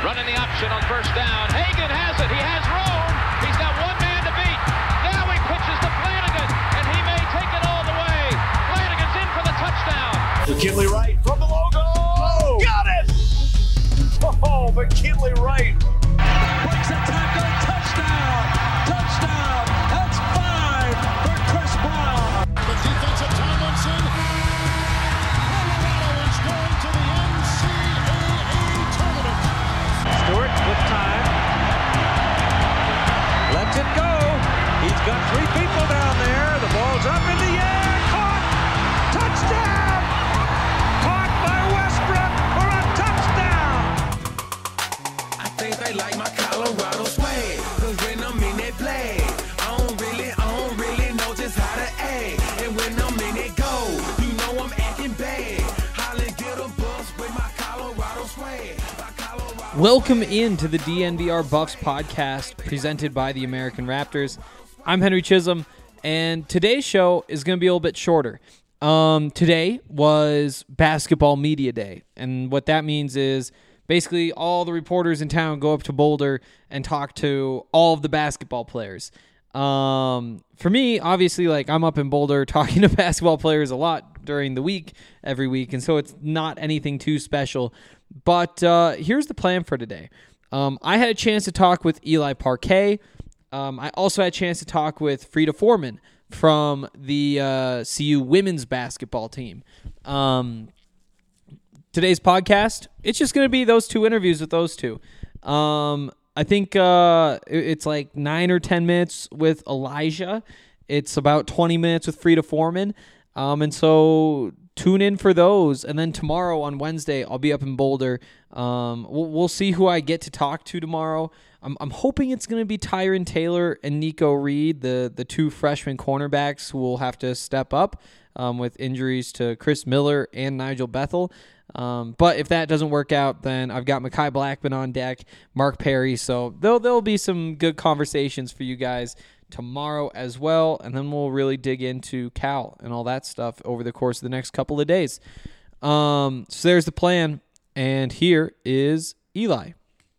Running the option on first down. Hagan has it. He has room. He's got one man to beat. Now he pitches to Flanagan, and he may take it all the way. Flanagan's in for the touchdown. McKinley Wright from the logo. Oh, got it! Oh, McKinley Wright. Breaks a tackle. Touchdown. Touchdown. That's 5 for Chris Brown. The defensive Tomlinson. Colorado is going to the NCAA tournament. Stewart with time. Lets it go. He's got 3 people down there. The ball's up in the air. Caught. Touchdown. Caught by Westbrook for a touchdown. I think they like my Colorado swag. Cause when I'm in that play, I don't really know just how to act. And when I'm in it go, you know I'm acting bad. Holly get a bus with my Colorado swag. Welcome into the DNVR Buffs podcast presented by the American Raptors. I'm Henry Chisholm, and today's show is going to be a little bit shorter. Today was Basketball Media Day, and what that means is basically all the reporters in town go up to Boulder and talk to all of the basketball players. For me, obviously, like I'm up in Boulder talking to basketball players a lot during the week, every week, and so it's not anything too special. But here's the plan for today. I had a chance to talk with Eli Parquet. I also had a chance to talk with Frida Foreman from the CU women's basketball team. Today's podcast, it's just going to be those two interviews with those two. I think it's like 9 or 10 minutes with Elijah. It's about 20 minutes with Frida Foreman. And so tune in for those. And then tomorrow on Wednesday, I'll be up in Boulder. We'll see who I get to talk to tomorrow. I'm hoping it's going to be Tyron Taylor and Nico Reed, the two freshman cornerbacks who will have to step up with injuries to Chris Miller and Nigel Bethel. But if that doesn't work out, then I've got Mekhi Blackman on deck, Mark Perry. So there'll be some good conversations for you guys tomorrow as well. And then we'll really dig into Cal and all that stuff over the course of the next couple of days. So there's the plan. And here is Elijah.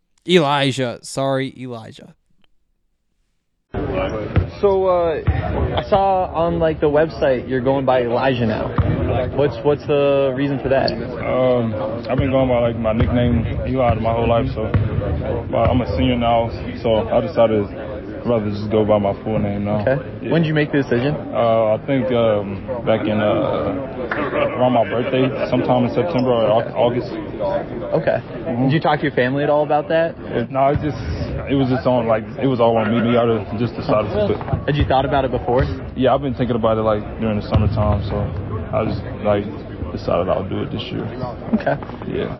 So I saw on like the website you're going by Elijah now. What's the reason for that? I've been going by like my nickname Eli my whole life. So I'm a senior now, so I decided I'd rather just go by my full name now. Okay. Yeah. When did you make the decision? I think back in around my birthday, sometime in September or August. Okay. Mm-hmm. Did you talk to your family at all about that? No, it was just on like it was all on me. I just decided to. Had you thought about it before? Yeah, I've been thinking about it like during the summertime, so I just like decided I'll do it this year. Okay. Yeah.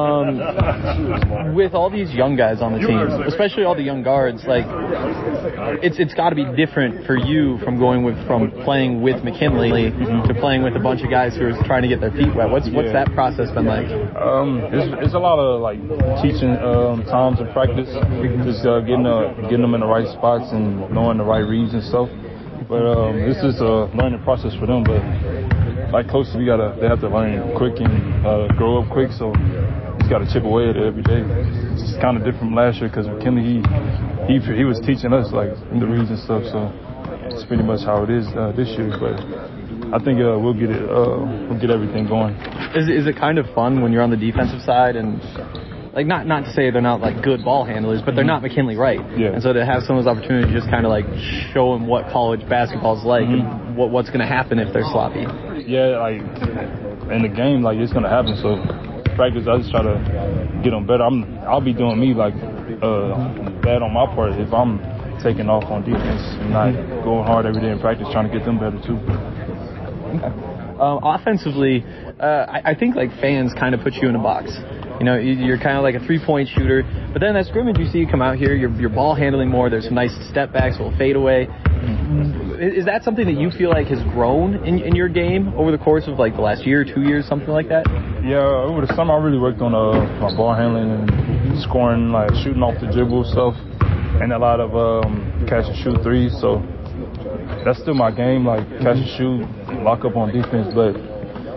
With all these young guys on the team, especially all the young guards, like it's got to be different for you from playing with McKinley to playing with a bunch of guys who are trying to get their feet wet. What's that process been like? It's a lot of like teaching times in practice, just getting them in the right spots and knowing the right reads and stuff. But this is a learning process for them. But like coaches, they have to learn quick and grow up quick. So you just got to chip away at it every day. It's just kind of different from last year because McKinley he was teaching us like the reads and stuff. So it's pretty much how it is this year. But I think we'll get everything going. Is it kind of fun when you're on the defensive side and? Like not to say they're not like good ball handlers, but they're not McKinley Wright. Yeah. And so to have some of those opportunities to just kind of like show them what college basketball is like and what's going to happen if they're sloppy. Yeah, like in the game, like it's going to happen. So practice, I just try to get them better. I'll be doing me like bad on my part if I'm taking off on defense and not going hard every day in practice, trying to get them better too. Okay. Offensively, I think like fans kind of put you in a box. You know, you're kind of like a three-point shooter, but then that scrimmage you see you come out here, you're ball handling more. There's some nice step backs, a little fade away. Is that something that you feel like has grown in your game over the course of like the last year, 2 years, something like that? Yeah, over the summer I really worked on my ball handling and scoring, like shooting off the dribble stuff, and a lot of catch and shoot threes. So that's still my game, like catch and shoot, lock up on defense, but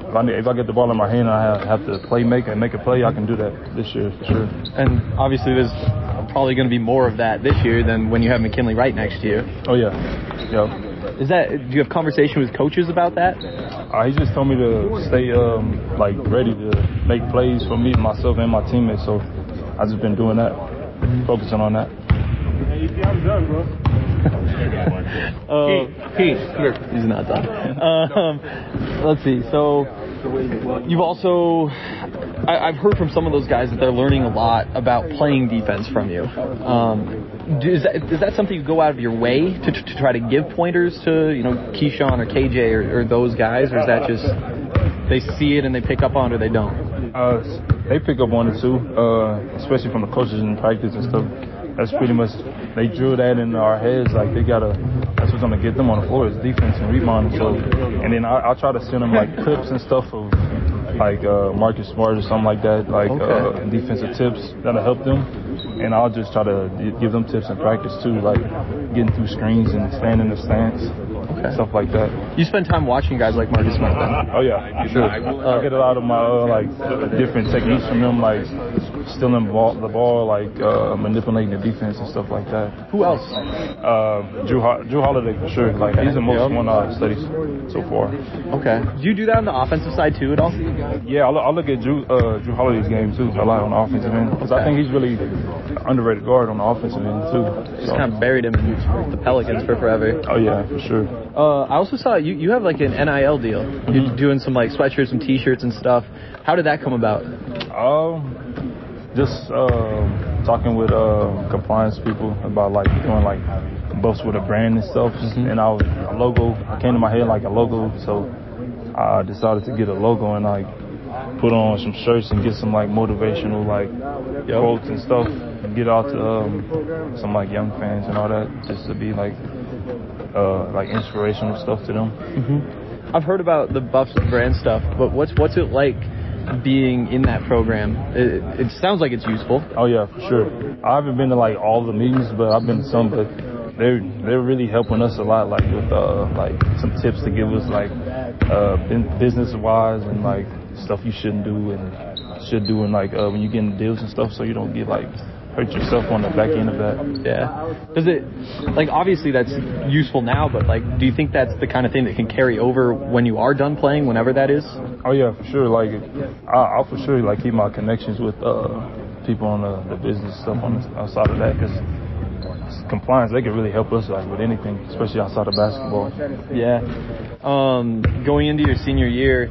if I get the ball in my hand and I have to make a play, I can do that this year for sure. And obviously there's probably going to be more of that this year than when you have McKinley Wright next year. Oh yeah, yeah. Do you have conversation with coaches about that? He just told me to stay ready to make plays for me, myself, and my teammates. So I just been doing that, focusing on that. I'm done, bro. He's not done. Let's see. So you've also, I've heard from some of those guys that they're learning a lot about playing defense from you. Is that something you go out of your way to try to give pointers to, Keyshawn or KJ or those guys, or is that just they see it and they pick up on it or they don't? They pick up on it too, especially from the coaches in practice and stuff. That's pretty much, they drew that in our heads, like that's what's gonna get them on the floor is defense and rebounding. So, and then I'll try to send them like clips and stuff of like Marcus Smart or something like that, defensive tips that'll help them. And I'll just try to give them tips in practice too, like getting through screens and staying in the stance, stuff like that. You spend time watching guys like Marcus Smart then? Oh yeah, sure. I get a lot of my different techniques from them, like stealing the ball, like manipulating the defense and stuff like that. Who else? Drew Holiday for sure. Like he's the most one I've studied so far. Okay. Do you do that on the offensive side too at all? Yeah, I look at Drew Holiday's game too a lot on the offensive end because I think he's really underrated guard on the offensive end too. Just kind of buried him in the Pelicans for forever. Oh yeah, for sure. I also saw you have like an NIL deal. You're doing some like sweatshirts and T-shirts and stuff. How did that come about? Just talking with compliance people about like doing like buffs with a brand and stuff. And a logo came to my head like a logo, so I decided to get a logo and like put on some shirts and get some like motivational like quotes and stuff and get out to some like young fans and all that, just to be like inspirational stuff to them. I've heard about the Buffs brand stuff, but what's it like being in that program? It sounds like it's useful. Oh yeah, for sure. I haven't been to like all the meetings, but I've been to some. But they're really helping us a lot, like with like some tips to give us like business wise and like stuff you shouldn't do and should do, and like when you get in deals and stuff, so you don't get like hurt yourself on the back end of that. Yeah. Does it, like, obviously that's useful now, but like, do you think that's the kind of thing that can carry over when you are done playing, whenever that is? Oh yeah, for sure. Like, I'll for sure like keep my connections with people on the business stuff on the outside of that, because compliance, they can really help us like with anything, especially outside of basketball. Yeah. Going into your senior year,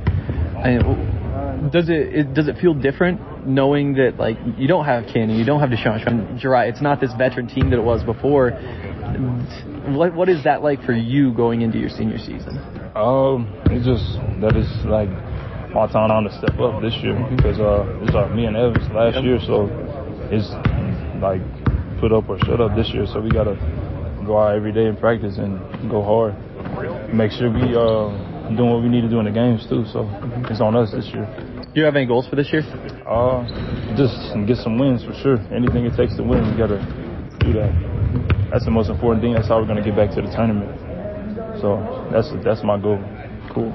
does it feel different knowing that like you don't have Ken, you don't have Deshaun Jariah? It's not this veteran team that it was before. What is that like for you going into your senior season? It's just that is like my time to step up this year, because it's like me and Evans last year, so it's like put up or shut up this year. So we gotta go out every day in practice and go hard. Make sure we doing what we need to do in the games too. So it's on us this year. Do you have any goals for this year? Just get some wins for sure. Anything it takes to win, we gotta do that. That's the most important thing. That's how we're gonna get back to the tournament. So that's my goal. Cool.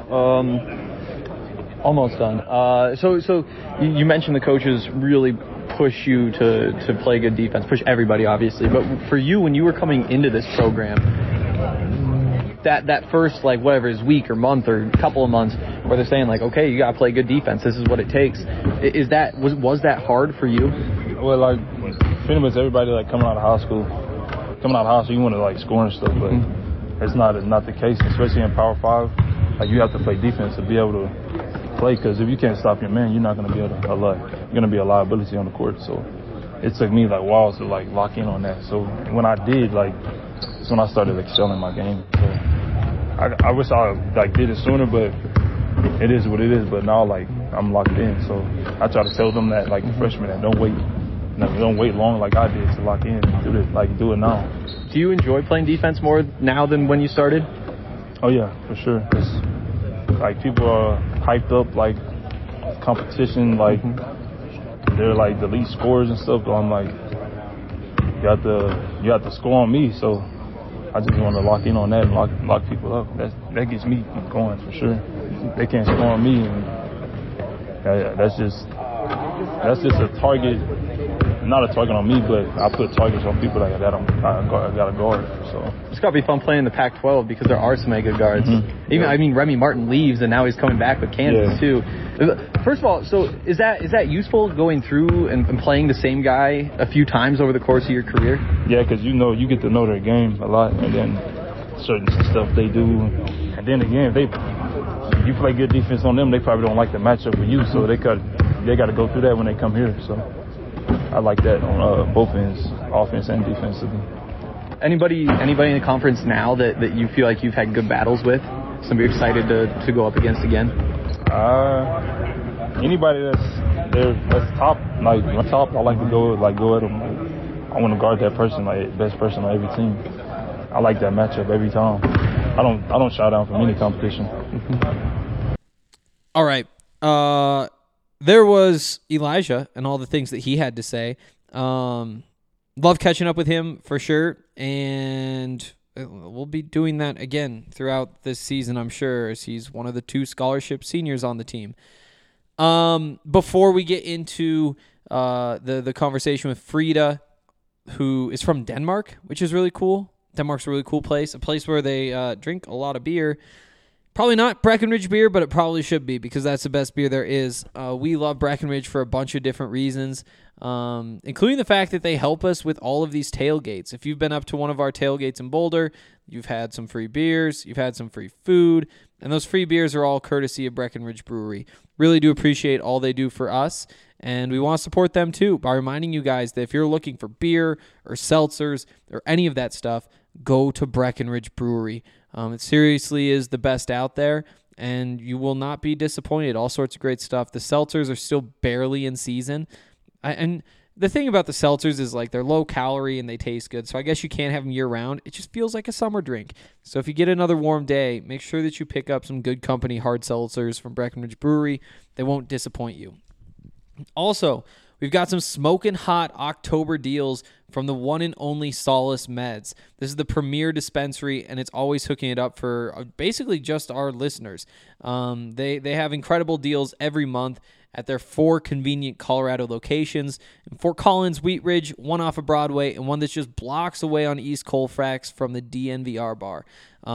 Almost done. So you mentioned the coaches really push you to play good defense, push everybody obviously, but for you, when you were coming into this program, that first like whatever is week or month or couple of months where they're saying like, okay, you gotta play good defense, this is what it takes, was that hard for you? Well, like pretty much everybody like coming out of high school you want to like score and stuff, but it's not the case, especially in Power 5. Like you have to play defense to be able to play, because if you can't stop your man, you're not going to be able to you're going to be a liability on the court. So it took me like whiles to like lock in on that. So when I did, like that's when I started excelling my game. So I wish I like did it sooner, but it is what it is. But now like I'm locked in, so I try to tell them that like the freshmen that don't wait long like I did to lock in. Do it now. Do you enjoy playing defense more now than when you started? Oh yeah, for sure. It's, like people are hyped up like competition, like they're like the lead scorers and stuff. But I'm like, you have to score on me. So I just want to lock in on that and lock people up. That gets me going for sure. They can't score on me, and that's just a target. Not a target on me, but I put targets on people like that. I got to guard. So It's got to be fun playing in the Pac-12 because there are so many good guards. I mean, Remy Martin leaves, and now he's coming back with Kansas too. First of all, so is that useful going through and playing the same guy a few times over the course of your career? Yeah, because you get to know their game a lot, and then certain stuff they do, and then again, if you play good defense on them, they probably don't like the matchup with you, so they got to go through that when they come here. So I like that on both ends, offense and defensively. Anybody in the conference now that you feel like you've had good battles with? Somebody you're excited to go up against again? Anybody that's top, I like to go at them. I want to guard that person, like best person on every team. I like that matchup every time. I don't shy down from any competition. All right. There was Elijah and all the things that he had to say. Love catching up with him for sure, and we'll be doing that again throughout this season, I'm sure, as he's one of the 2 scholarship seniors on the team. Before we get into the conversation with Frida, who is from Denmark, which is really cool. Denmark's a really cool place, a place where they drink a lot of beer. Probably not Breckenridge beer, but it probably should be because that's the best beer there is. We love Breckenridge for a bunch of different reasons, including the fact that they help us with all of these tailgates. If you've been up to one of our tailgates in Boulder, you've had some free beers, you've had some free food, and those free beers are all courtesy of Breckenridge Brewery. Really do appreciate all they do for us, and we want to support them too by reminding you guys that if you're looking for beer or seltzers or any of that stuff, go to Breckenridge Brewery. It seriously is the best out there, and you will not be disappointed. All sorts of great stuff. The seltzers are still barely in season. And the thing about the seltzers is like they're low calorie and they taste good, so I guess you can't have them year-round. It just feels like a summer drink. So if you get another warm day, make sure that you pick up some good company hard seltzers from Breckenridge Brewery. They won't disappoint you. Also, we've got some smoking hot October deals from the one and only Solace Meds. This is the premier dispensary, and it's always hooking it up for basically just our listeners. They have incredible deals every month at their 4 convenient Colorado locations. In Fort Collins, Wheat Ridge, one off of Broadway, and one that's just blocks away on East Colfax from the DNVR bar.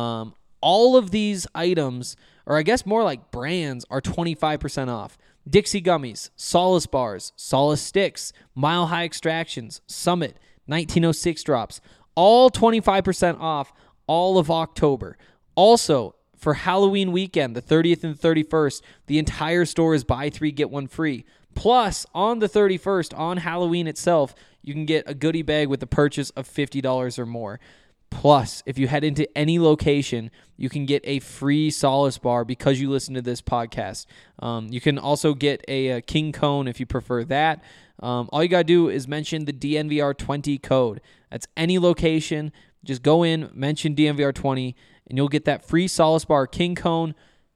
All of these items, or I guess more like brands, are 25% off. Dixie Gummies, Solace Bars, Solace Sticks, Mile High Extractions, Summit, 1906 Drops, all 25% off all of October. Also, for Halloween weekend, the 30th and 31st, the entire store is buy 3, get 1 free. Plus, on the 31st, on Halloween itself, you can get a goodie bag with the purchase of $50 or more. Plus, if you head into any location, you can get a free Solace bar because you listen to this podcast. You can also get a King Cone if you prefer that. All you got to do is mention the DNVR20 code. That's any location. Just go in, mention DNVR20, and you'll get that free Solace bar King Cone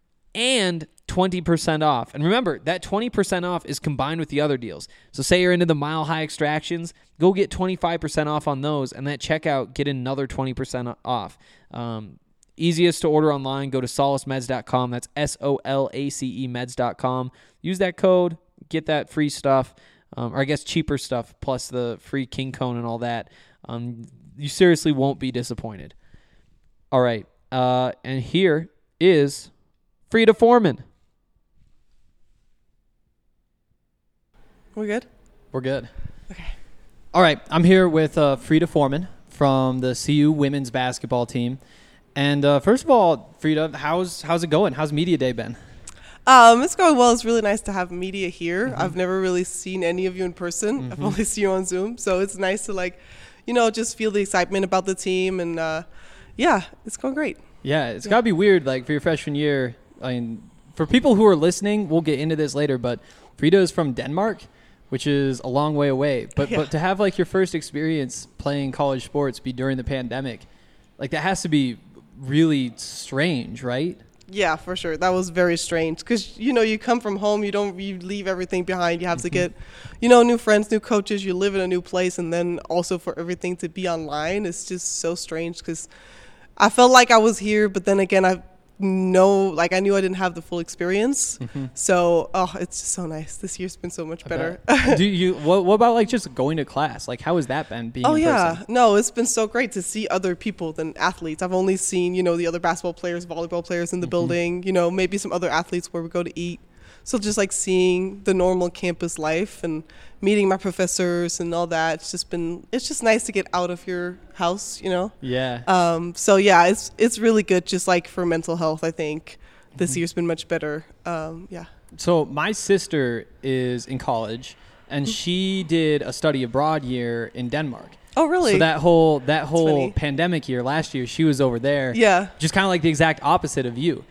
and 20% off. And remember, that 20% off is combined with the other deals. So say you're into the Mile High Extractions, go get 25% off on those, and at checkout, get another 20% off. Easiest to order online, go to solacemeds.com. That's SOLACE meds.com. Use that code, get that free stuff, or I guess cheaper stuff, plus the free King Cone and all that. You seriously won't be disappointed. All right, and here is Frida Foreman. We good? We're good. Okay. All right, I'm here with Frida Foreman from the CU women's basketball team. And first of all, Frida, how's it going? How's Media Day been? It's going well. It's really nice to have media here. Mm-hmm. I've never really seen any of you in person. Mm-hmm. I've only seen you on Zoom. So it's nice to just feel the excitement about the team. And yeah, it's going great. Yeah, it's got to be weird, like for your freshman year. I mean, for people who are listening, we'll get into this later, but Frida is from Denmark, which is a long way away. But to have like your first experience playing college sports be during the pandemic, like that has to be really strange, right? Yeah, for sure. That was very strange because, you come from home, you leave everything behind. You have to get, new friends, new coaches. You live in a new place. And then also for everything to be online, it's just so strange because I felt like I was here. But then again, I knew I didn't have the full experience. So, it's just so nice. This year's been so much better. What about like just going to class? Like, how has that been being in person? No, it's been so great to see other people than athletes. I've only seen, the other basketball players, volleyball players in the building, maybe some other athletes where we go to eat. So just like seeing the normal campus life and meeting my professors and all that, it's just nice to get out of your house, Yeah. So yeah, it's really good just like for mental health, I think. This year's been much better. Yeah. So my sister is in college and she did a study abroad year in Denmark. Oh, really? So that whole funny. pandemic year last year, she was over there. Yeah. Just kind of like the exact opposite of you.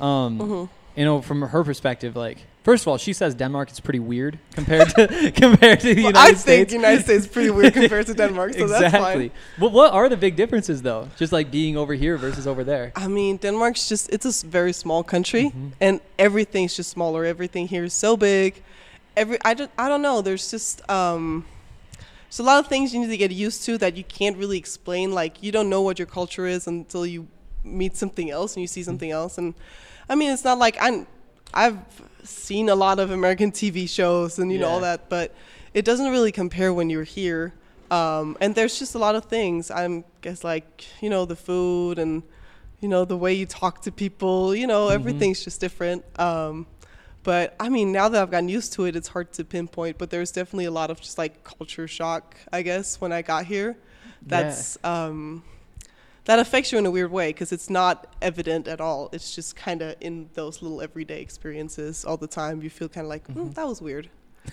From her perspective, like, first of all, she says Denmark is pretty weird compared to the United States. I think the United States is pretty weird compared to Denmark, so exactly. That's fine. Well, what are the big differences, though? Just like being over here versus over there. I mean, Denmark's it's a very small country, and everything's just smaller. Everything here is so big. I don't know. There's just there's a lot of things you need to get used to that you can't really explain. Like, you don't know what your culture is until you meet something else and you see something else. And I mean, it's not like I've seen a lot of American TV shows and all that, but it doesn't really compare when you're here. And there's just a lot of things. I guess like, the food and, the way you talk to people, everything's just different. But I mean, now that I've gotten used to it, it's hard to pinpoint, but there's definitely a lot of just like culture shock, I guess, when I got here. That's, that affects you in a weird way because it's not evident at all. It's just kind of in those little everyday experiences all the time. You feel kind of like, that was weird.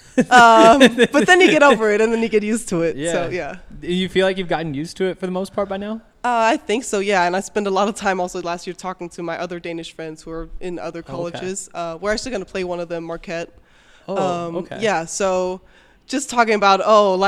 But then you get over it and then you get used to it. Yeah. So, yeah. You feel like you've gotten used to it for the most part by now? I think so, yeah. And I spent a lot of time also last year talking to my other Danish friends who are in other colleges. We're actually going to play one of them, Marquette. Okay. Yeah, so just talking about,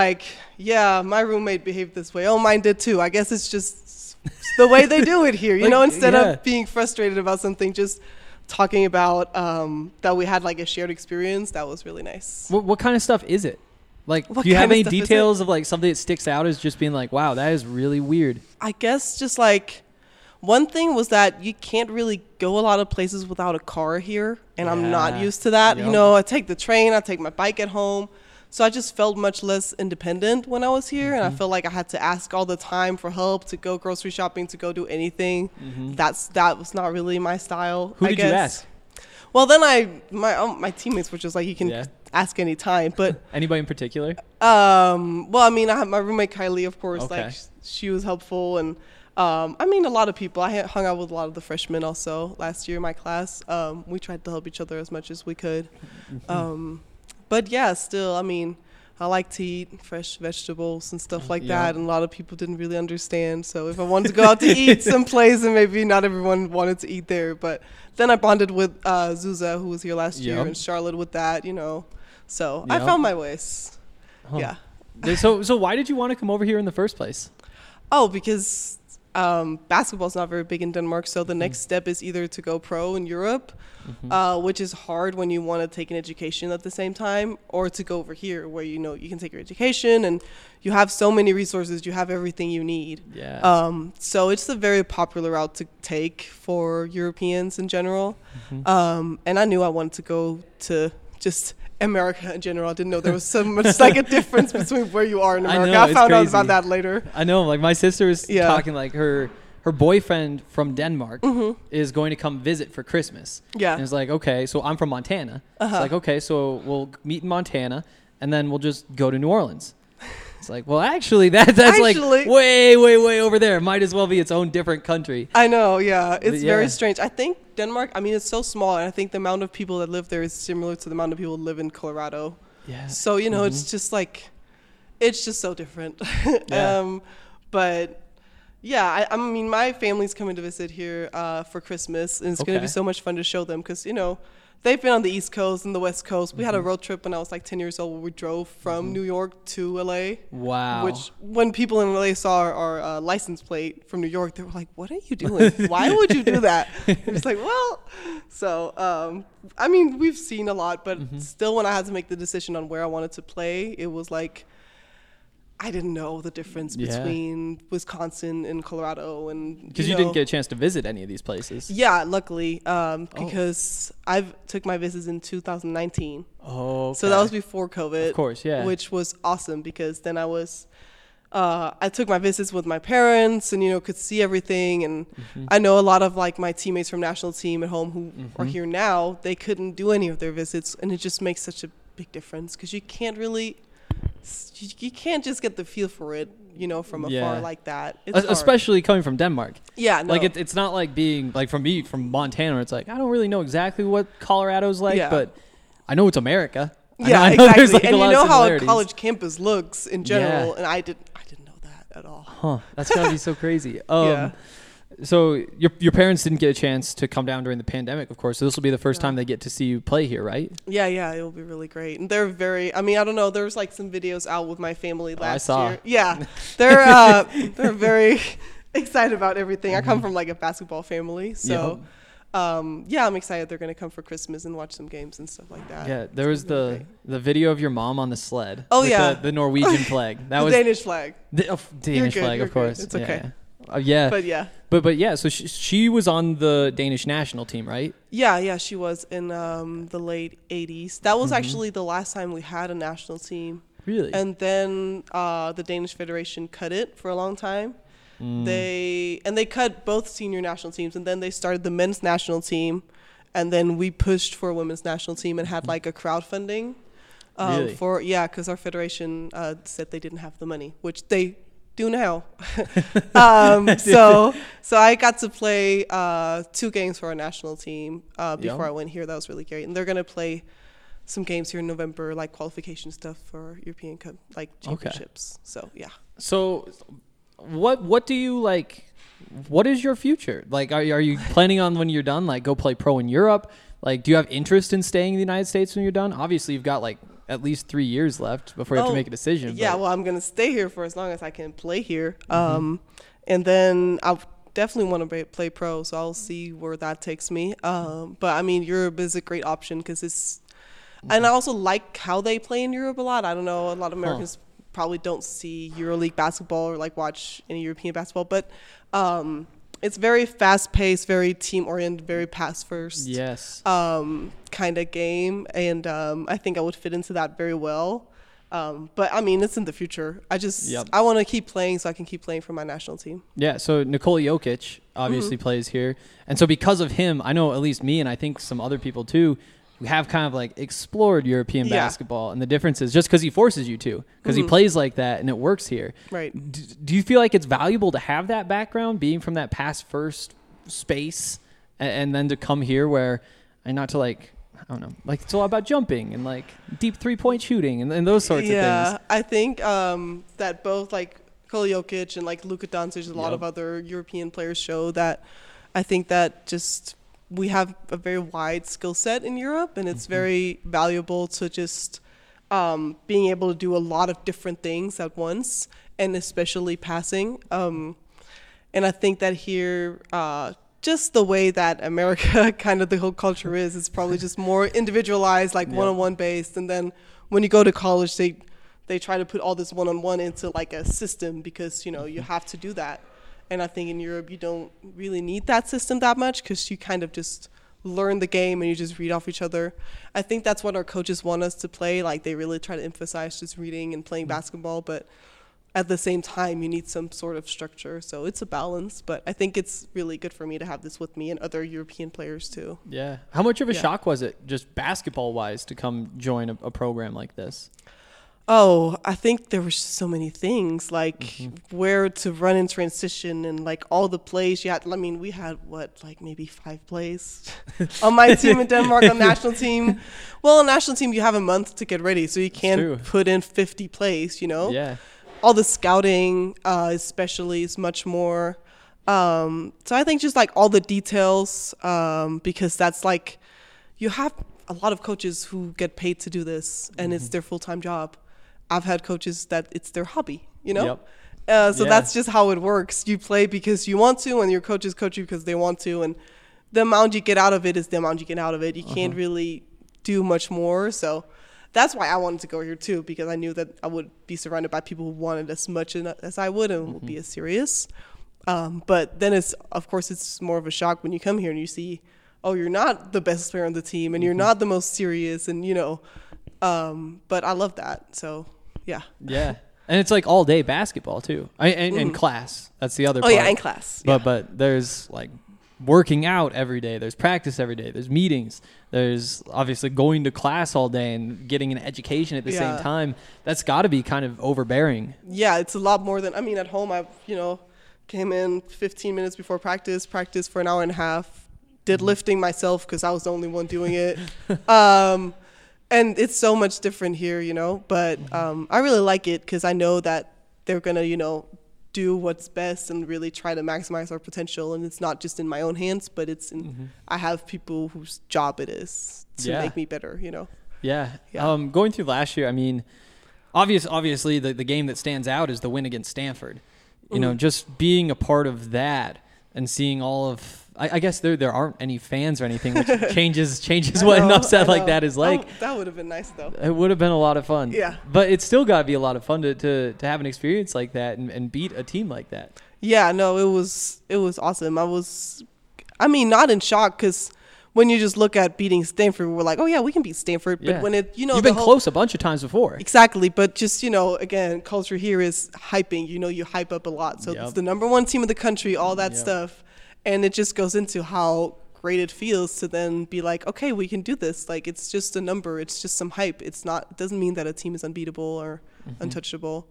my roommate behaved this way. Oh, mine did too. I guess it's just the way they do it here, instead of being frustrated about something, just talking about that we had like a shared experience. That was really nice. What kind of stuff is it? Like, What do you kind have of any stuff is details of like something that sticks out as just being like, wow, that is really weird? I guess just like one thing was that you can't really go a lot of places without a car here, and I'm not used to that. Yep. I take the train, I take my bike at home. So I just felt much less independent when I was here, and I felt like I had to ask all the time for help, to go grocery shopping, to go do anything. That was not really my style. Who I did guess. you ask? Well, then my teammates were just like, you can ask any time, but Anybody in particular? well, I mean, I have my roommate Kylie, of course. Okay. Like she was helpful, and I mean, a lot of people. I hung out with a lot of the freshmen also last year in my class. We tried to help each other as much as we could. But yeah, still, I mean, I like to eat fresh vegetables and stuff like that, and a lot of people didn't really understand. So if I wanted to go out to eat someplace, and maybe not everyone wanted to eat there, but then I bonded with Zuza, who was here last year, and Charlotte with that, So I found my ways. Yeah. So why did you want to come over here in the first place? Oh, because basketball is not very big in Denmark, so the next step is either to go pro in Europe, which is hard when you want to take an education at the same time, or to go over here where you can take your education and you have so many resources, you have everything you need. Yeah. So it's a very popular route to take for Europeans in general. And I knew I wanted to go to just America in general. I didn't know there was so much like a difference between where you are in America. I found out about that later. I know, like my sister was talking like her boyfriend from Denmark is going to come visit for Christmas. Yeah. And it's like, okay, so I'm from Montana. It's like, okay, so we'll meet in Montana and then we'll just go to New Orleans. It's like, well, actually, that's like way, way, way over there. Might as well be its own different country. I know, yeah. It's very strange. I think Denmark, I mean, it's so small, and I think the amount of people that live there is similar to the amount of people that live in Colorado. Yeah. So, it's just like, it's just so different. But, yeah, I mean, my family's coming to visit here for Christmas, and it's going to be so much fun to show them because, they've been on the East Coast and the West Coast. We had a road trip when I was like 10 years old where we drove from New York to LA. Wow. Which when people in LA saw our license plate from New York, they were like, what are you doing? Why would you do that? It's like, well, so, I mean, we've seen a lot, but still when I had to make the decision on where I wanted to play, it was like, I didn't know the difference between Wisconsin and Colorado, and because you didn't get a chance to visit any of these places. Yeah, luckily, because I took my visits in 2019. Oh, okay. So that was before COVID. Of course, yeah. Which was awesome because then I took my visits with my parents and, could see everything. And I know a lot of like my teammates from national team at home who are here now, they couldn't do any of their visits. And it just makes such a big difference because you can't just get the feel for it, from afar like that. It's especially coming from Denmark. Yeah, no. Like it's not like being like from Montana, where it's like I don't really know exactly what Colorado's like, but I know it's America. Yeah, I know exactly. Like and you know how a college campus looks in general, and I didn't know that at all. Huh? That's gotta be so crazy. So your parents didn't get a chance to come down during the pandemic, of course. So this will be the first time they get to see you play here, right? Yeah, it will be really great. And they're very. I mean, I don't know. There's like some videos out with my family last year. Yeah, they're very excited about everything. I come from like a basketball family, so I'm excited they're gonna come for Christmas and watch some games and stuff like that. Yeah, there was the video of your mom on the sled. Oh with the Norwegian flag. That was Danish flag. Danish flag, of course. It's okay. But yeah, so she was on the Danish national team, right? Yeah, she was in the late 80s. That was actually the last time we had a national team. Really? And then the Danish Federation cut it for a long time. They cut both senior national teams, and then they started the men's national team, and then we pushed for a women's national team and had like a crowdfunding really? Because our federation said they didn't have the money, which they do now. So I got to play 2 games for our national team before I went here. That was really great. And they're going to play some games here in November, like qualification stuff for European Cup, like championships. So, yeah. So what do you like? What is your future? Like, are you planning on when you're done, like go play pro in Europe? Like, do you have interest in staying in the United States when you're done? Obviously, you've got like at least 3 years left before you have to make a decision. Yeah, well, I'm going to stay here for as long as I can play here. And then I definitely want to play pro, so I'll see where that takes me. But, I mean, Europe is a great option because it's – and I also like how they play in Europe a lot. I don't know, a lot of Americans probably don't see EuroLeague basketball or, like, watch any European basketball. But it's very fast-paced, very team-oriented, very pass-first kind of game. And I think I would fit into that very well. But, I mean, it's in the future. I want to keep playing so I can keep playing for my national team. Yeah, so Nikola Jokic obviously plays here. And so because of him, I know at least me and I think some other people too, we have kind of like explored European basketball, and the difference is just because he forces you to, because he plays like that and it works here. Right. Do you feel like it's valuable to have that background, being from that pass first space, and then to come here where, and not to like, I don't know, like it's all about jumping and like deep 3-point shooting and those sorts of things. Yeah, I think that both like Nikola Jokic and like Luka Doncic, a lot of other European players show that. I think that just we have a very wide skill set in Europe, and it's very valuable to just being able to do a lot of different things at once, and especially passing. And I think that here, just the way that America, kind of the whole culture is, it's probably just more individualized, like one-on-one based. And then when you go to college, they try to put all this one-on-one into like a system because, you have to do that. And I think in Europe, you don't really need that system that much because you kind of just learn the game and you just read off each other. I think that's what our coaches want us to play. Like, they really try to emphasize just reading and playing basketball. But at the same time, you need some sort of structure. So it's a balance. But I think it's really good for me to have this with me and other European players, too. Yeah. How much of a shock was it, just basketball-wise, to come join a program like this? Oh, I think there were so many things, like where to run in transition and like all the plays you had. I mean, we had maybe 5 plays on my team in Denmark, on national team. Well, on national team, you have a month to get ready, so you can't put in 50 plays, Yeah. All the scouting, especially, is much more. So I think just like all the details, because that's like, you have a lot of coaches who get paid to do this, and it's their full-time job. I've had coaches that it's their hobby, So that's just how it works. You play because you want to, and your coaches coach you because they want to. And the amount you get out of it is the amount you get out of it. You can't really do much more. So that's why I wanted to go here too, because I knew that I would be surrounded by people who wanted as much as I would and would be as serious. But then it's more of a shock when you come here and you see, oh, you're not the best player on the team and you're not the most serious, and but I love that. So yeah. Yeah. And it's like all day basketball too. And class. That's the other part. Oh yeah, in class. But there's like working out every day. There's practice every day. There's meetings. There's obviously going to class all day and getting an education at the same time. That's got to be kind of overbearing. Yeah, it's a lot more than, at home I, came in 15 minutes before practice for an hour and a half, did lifting myself because I was the only one doing it. And it's so much different here, but I really like it because I know that they're going to, do what's best and really try to maximize our potential. And it's not just in my own hands, but it's in, I have people whose job it is to make me better, Yeah. Going through last year, I mean, obviously the game that stands out is the win against Stanford. Just being a part of that and seeing all of, I guess there aren't any fans or anything, which changes what an upset like that is like. That would have been nice though. It would have been a lot of fun. Yeah. But it's still got to be a lot of fun to have an experience like that and beat a team like that. Yeah, no, it was awesome. Not in shock because when you just look at beating Stanford, we're like, oh yeah, we can beat Stanford. But when it, you've been close a bunch of times before. Exactly. But just, again, culture here is hyping, you hype up a lot. So it's the number one team in the country, all that stuff. And it just goes into how great it feels to then be like, okay, we can do this. Like, it's just a number. It's just some hype. It doesn't mean that a team is unbeatable or untouchable.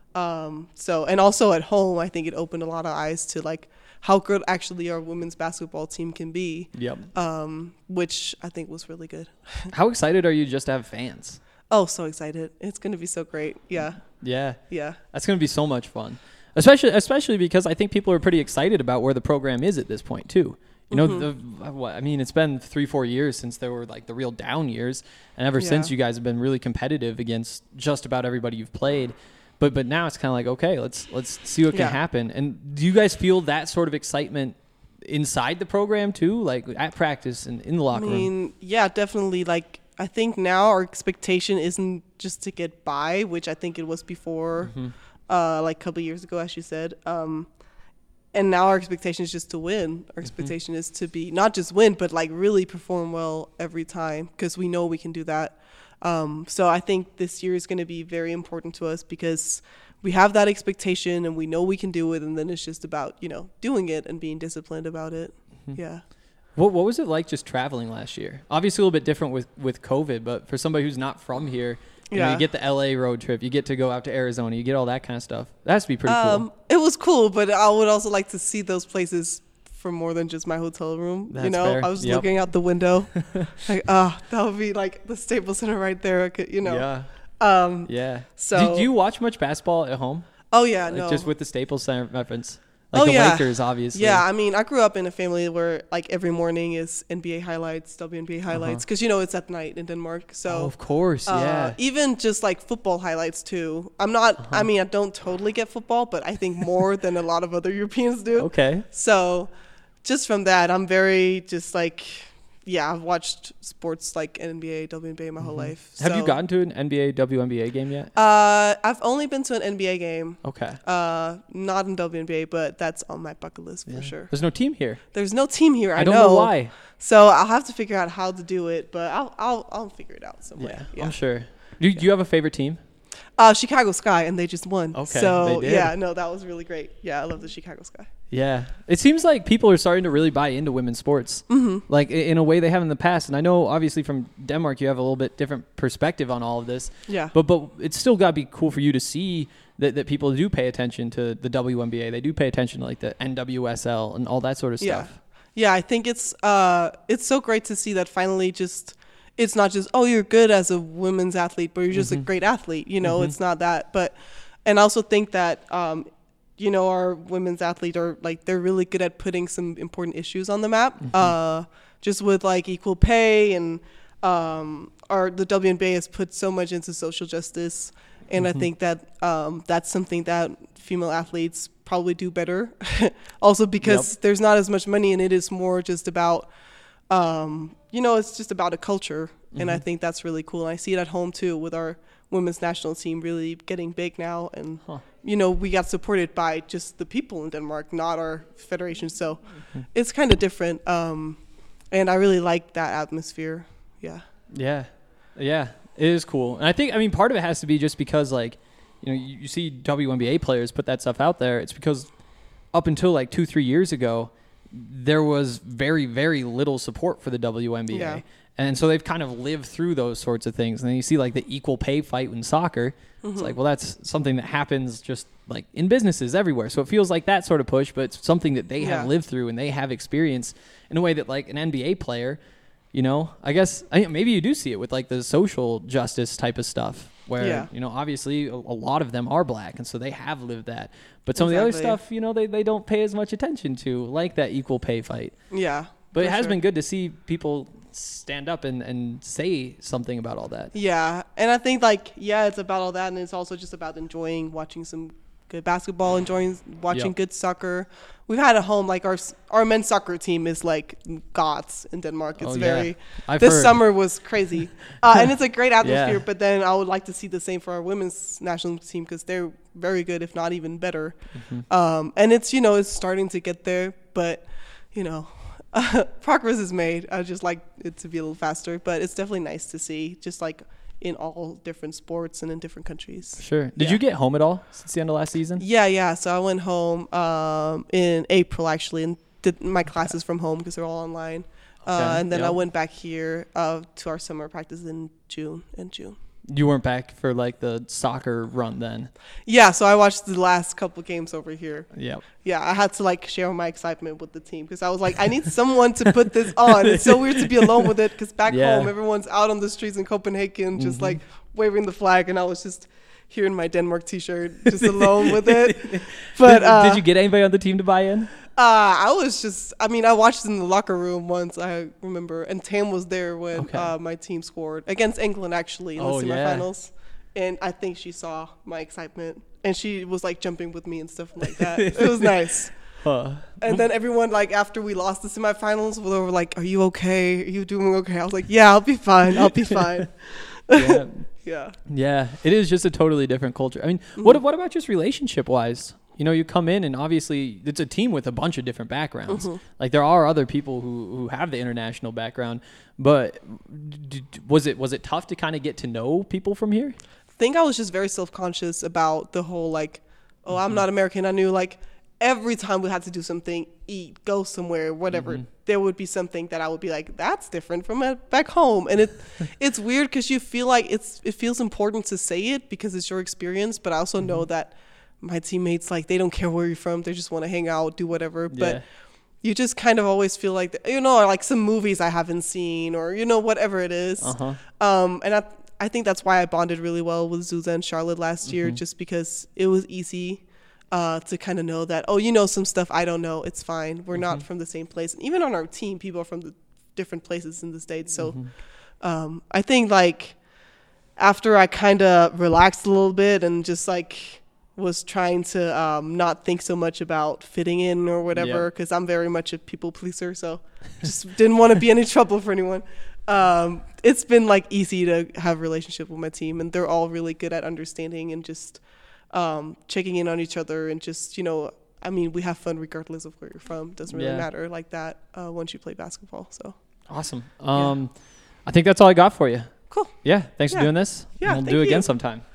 And also at home, I think it opened a lot of eyes to like how good actually our women's basketball team can be. Yep. Which I think was really good. How excited are you just to have fans? Oh, so excited. It's going to be so great. Yeah. Yeah. Yeah. That's going to be so much fun. Especially because I think people are pretty excited about where the program is at this point too. It's been 3-4 years since there were like the real down years, and ever since you guys have been really competitive against just about everybody you've played. But now it's kind of like, okay, let's see what can happen. And do you guys feel that sort of excitement inside the program too, like at practice and in the locker room? Yeah, definitely. Like I think now our expectation isn't just to get by, which I think it was before. Like a couple of years ago, as you said. And now our expectation is just to win. Our expectation is to be not just win, but like really perform well every time because we know we can do that. So I think this year is going to be very important to us because we have that expectation and we know we can do it. And then it's just about, doing it and being disciplined about it. Yeah. What was it like just traveling last year? Obviously a little bit different with COVID, but for somebody who's not from here, you get the LA road trip, you get to go out to Arizona, you get all that kind of stuff. That has to be pretty cool. It was cool, but I would also like to see those places for more than just my hotel room. That's fair. I was looking out the window, like, that would be like the Staples Center right there. I could, Yeah. So do you watch much basketball at home? Oh yeah, like no. Just with the Staples Center reference. Like Lakers, obviously. Yeah, I grew up in a family where like every morning is NBA highlights, WNBA highlights, because it's at night in Denmark. So of course, yeah. Even just like football highlights too. I'm not. I don't totally get football, but I think more than a lot of other Europeans do. Okay. So, just from that, I'm very just like. Yeah, I've watched sports like NBA, WNBA my whole life. So. Have you gotten to an NBA, WNBA game yet? I've only been to an NBA game. Okay. Not in WNBA, but that's on my bucket list for sure. There's no team here. There's no team here. I don't know why. So I'll have to figure out how to do it, but I'll figure it out some way. Yeah, I'm sure. Do you have a favorite team? Chicago Sky, and they just won. Okay, so they did. that was really great. Yeah, I love the Chicago Sky. Yeah, it seems like people are starting to really buy into women's sports, like in a way they have in the past. And I know, obviously, from Denmark, you have a little bit different perspective on all of this. Yeah. But it's still got to be cool for you to see that people do pay attention to the WNBA. They do pay attention to like the NWSL and all that sort of stuff. Yeah, I think it's so great to see that finally just. It's not just, oh, you're good as a women's athlete, but you're just a great athlete. It's not that. And I also think that, our women's athletes are like, they're really good at putting some important issues on the map, just with like equal pay and the WNBA has put so much into social justice. And I think that that's something that female athletes probably do better. Also because there's not as much money and it is more just about, it's just about a culture And I think that's really cool. And I see it at home too with our women's national team really getting big now. And, we got supported by just the people in Denmark, not our federation. So it's kind of different. And I really like that atmosphere. Yeah. Yeah. Yeah. It is cool. And I think, part of it has to be just because, like, you see WNBA players put that stuff out there. It's because up until like 2-3 years ago, there was very, very little support for the WNBA. Yeah. And so they've kind of lived through those sorts of things. And then you see like the equal pay fight in soccer. It's like, well, that's something that happens just like in businesses everywhere. So it feels like that sort of push, but it's something that they have lived through and they have experienced in a way that like an NBA player, I guess maybe you do see it with like the social justice type of stuff where, obviously a lot of them are black. And so they have lived that. But some of the other stuff, they don't pay as much attention to, like that equal pay fight. Yeah. But it has been good to see people stand up and say something about all that. Yeah. And I think it's about all that. And it's also just about enjoying watching some good basketball, enjoying watching good soccer. We've had at home, like our men's soccer team is like gods in Denmark. It's this summer was crazy. And it's a great atmosphere, but then I would like to see the same for our women's national team because they're very good, if not even better. And it's, it's starting to get there, but, progress is made. I just like it to be a little faster, but it's definitely nice to see just like in all different sports and in different countries. Sure. Did you get home at all since the end of last season? Yeah. So I went home in April actually and did my classes from home because they're all online. And then I went back here to our summer practice in June. You weren't back for like the soccer run then? Yeah, so I watched the last couple games over here. Yep. Yeah, I had to like share my excitement with the team because I was like, I need someone to put this on. It's so weird to be alone with it because back home, everyone's out on the streets in Copenhagen just like waving the flag, and I was just here in my Denmark t-shirt, just alone with it. But did you get anybody on the team to buy in? I watched in the locker room once, I remember, and Tam was there when my team scored against England, actually, in the semifinals. And I think she saw my excitement, and she was, like, jumping with me and stuff like that. It was nice. And then everyone, like, after we lost the semifinals, they were like, are you okay? Are you doing okay? I was like, yeah, I'll be fine. Yeah, it is just a totally different culture. I mean, what about just relationship-wise? You come in and obviously it's a team with a bunch of different backgrounds. Like there are other people who have the international background, but was it tough to kind of get to know people from here? I think I was just very self-conscious about the whole like, I'm not American. I knew like every time we had to do something, eat, go somewhere, whatever, there would be something that I would be like, that's different from back home. And it's weird because you feel like it feels important to say it because it's your experience, but I also know that my teammates, like, they don't care where you're from. They just want to hang out, do whatever. But you just kind of always feel like, like some movies I haven't seen or, whatever it is. And I think that's why I bonded really well with Zuza and Charlotte last year, just because it was easy to kind of know that, some stuff I don't know. It's fine. We're not from the same place. And even on our team, people are from the different places in the States. So I think, like, after I kind of relaxed a little bit and just, like, was trying to not think so much about fitting in or whatever, because I'm very much a people pleaser, so just didn't want to be any trouble for anyone. It's been like easy to have a relationship with my team, and they're all really good at understanding and just checking in on each other, and just we have fun regardless of where you're from. Doesn't really matter like that once you play basketball. So awesome. I think that's all I got for you. Cool. Yeah, thanks for doing this. Yeah, we'll do it again sometime.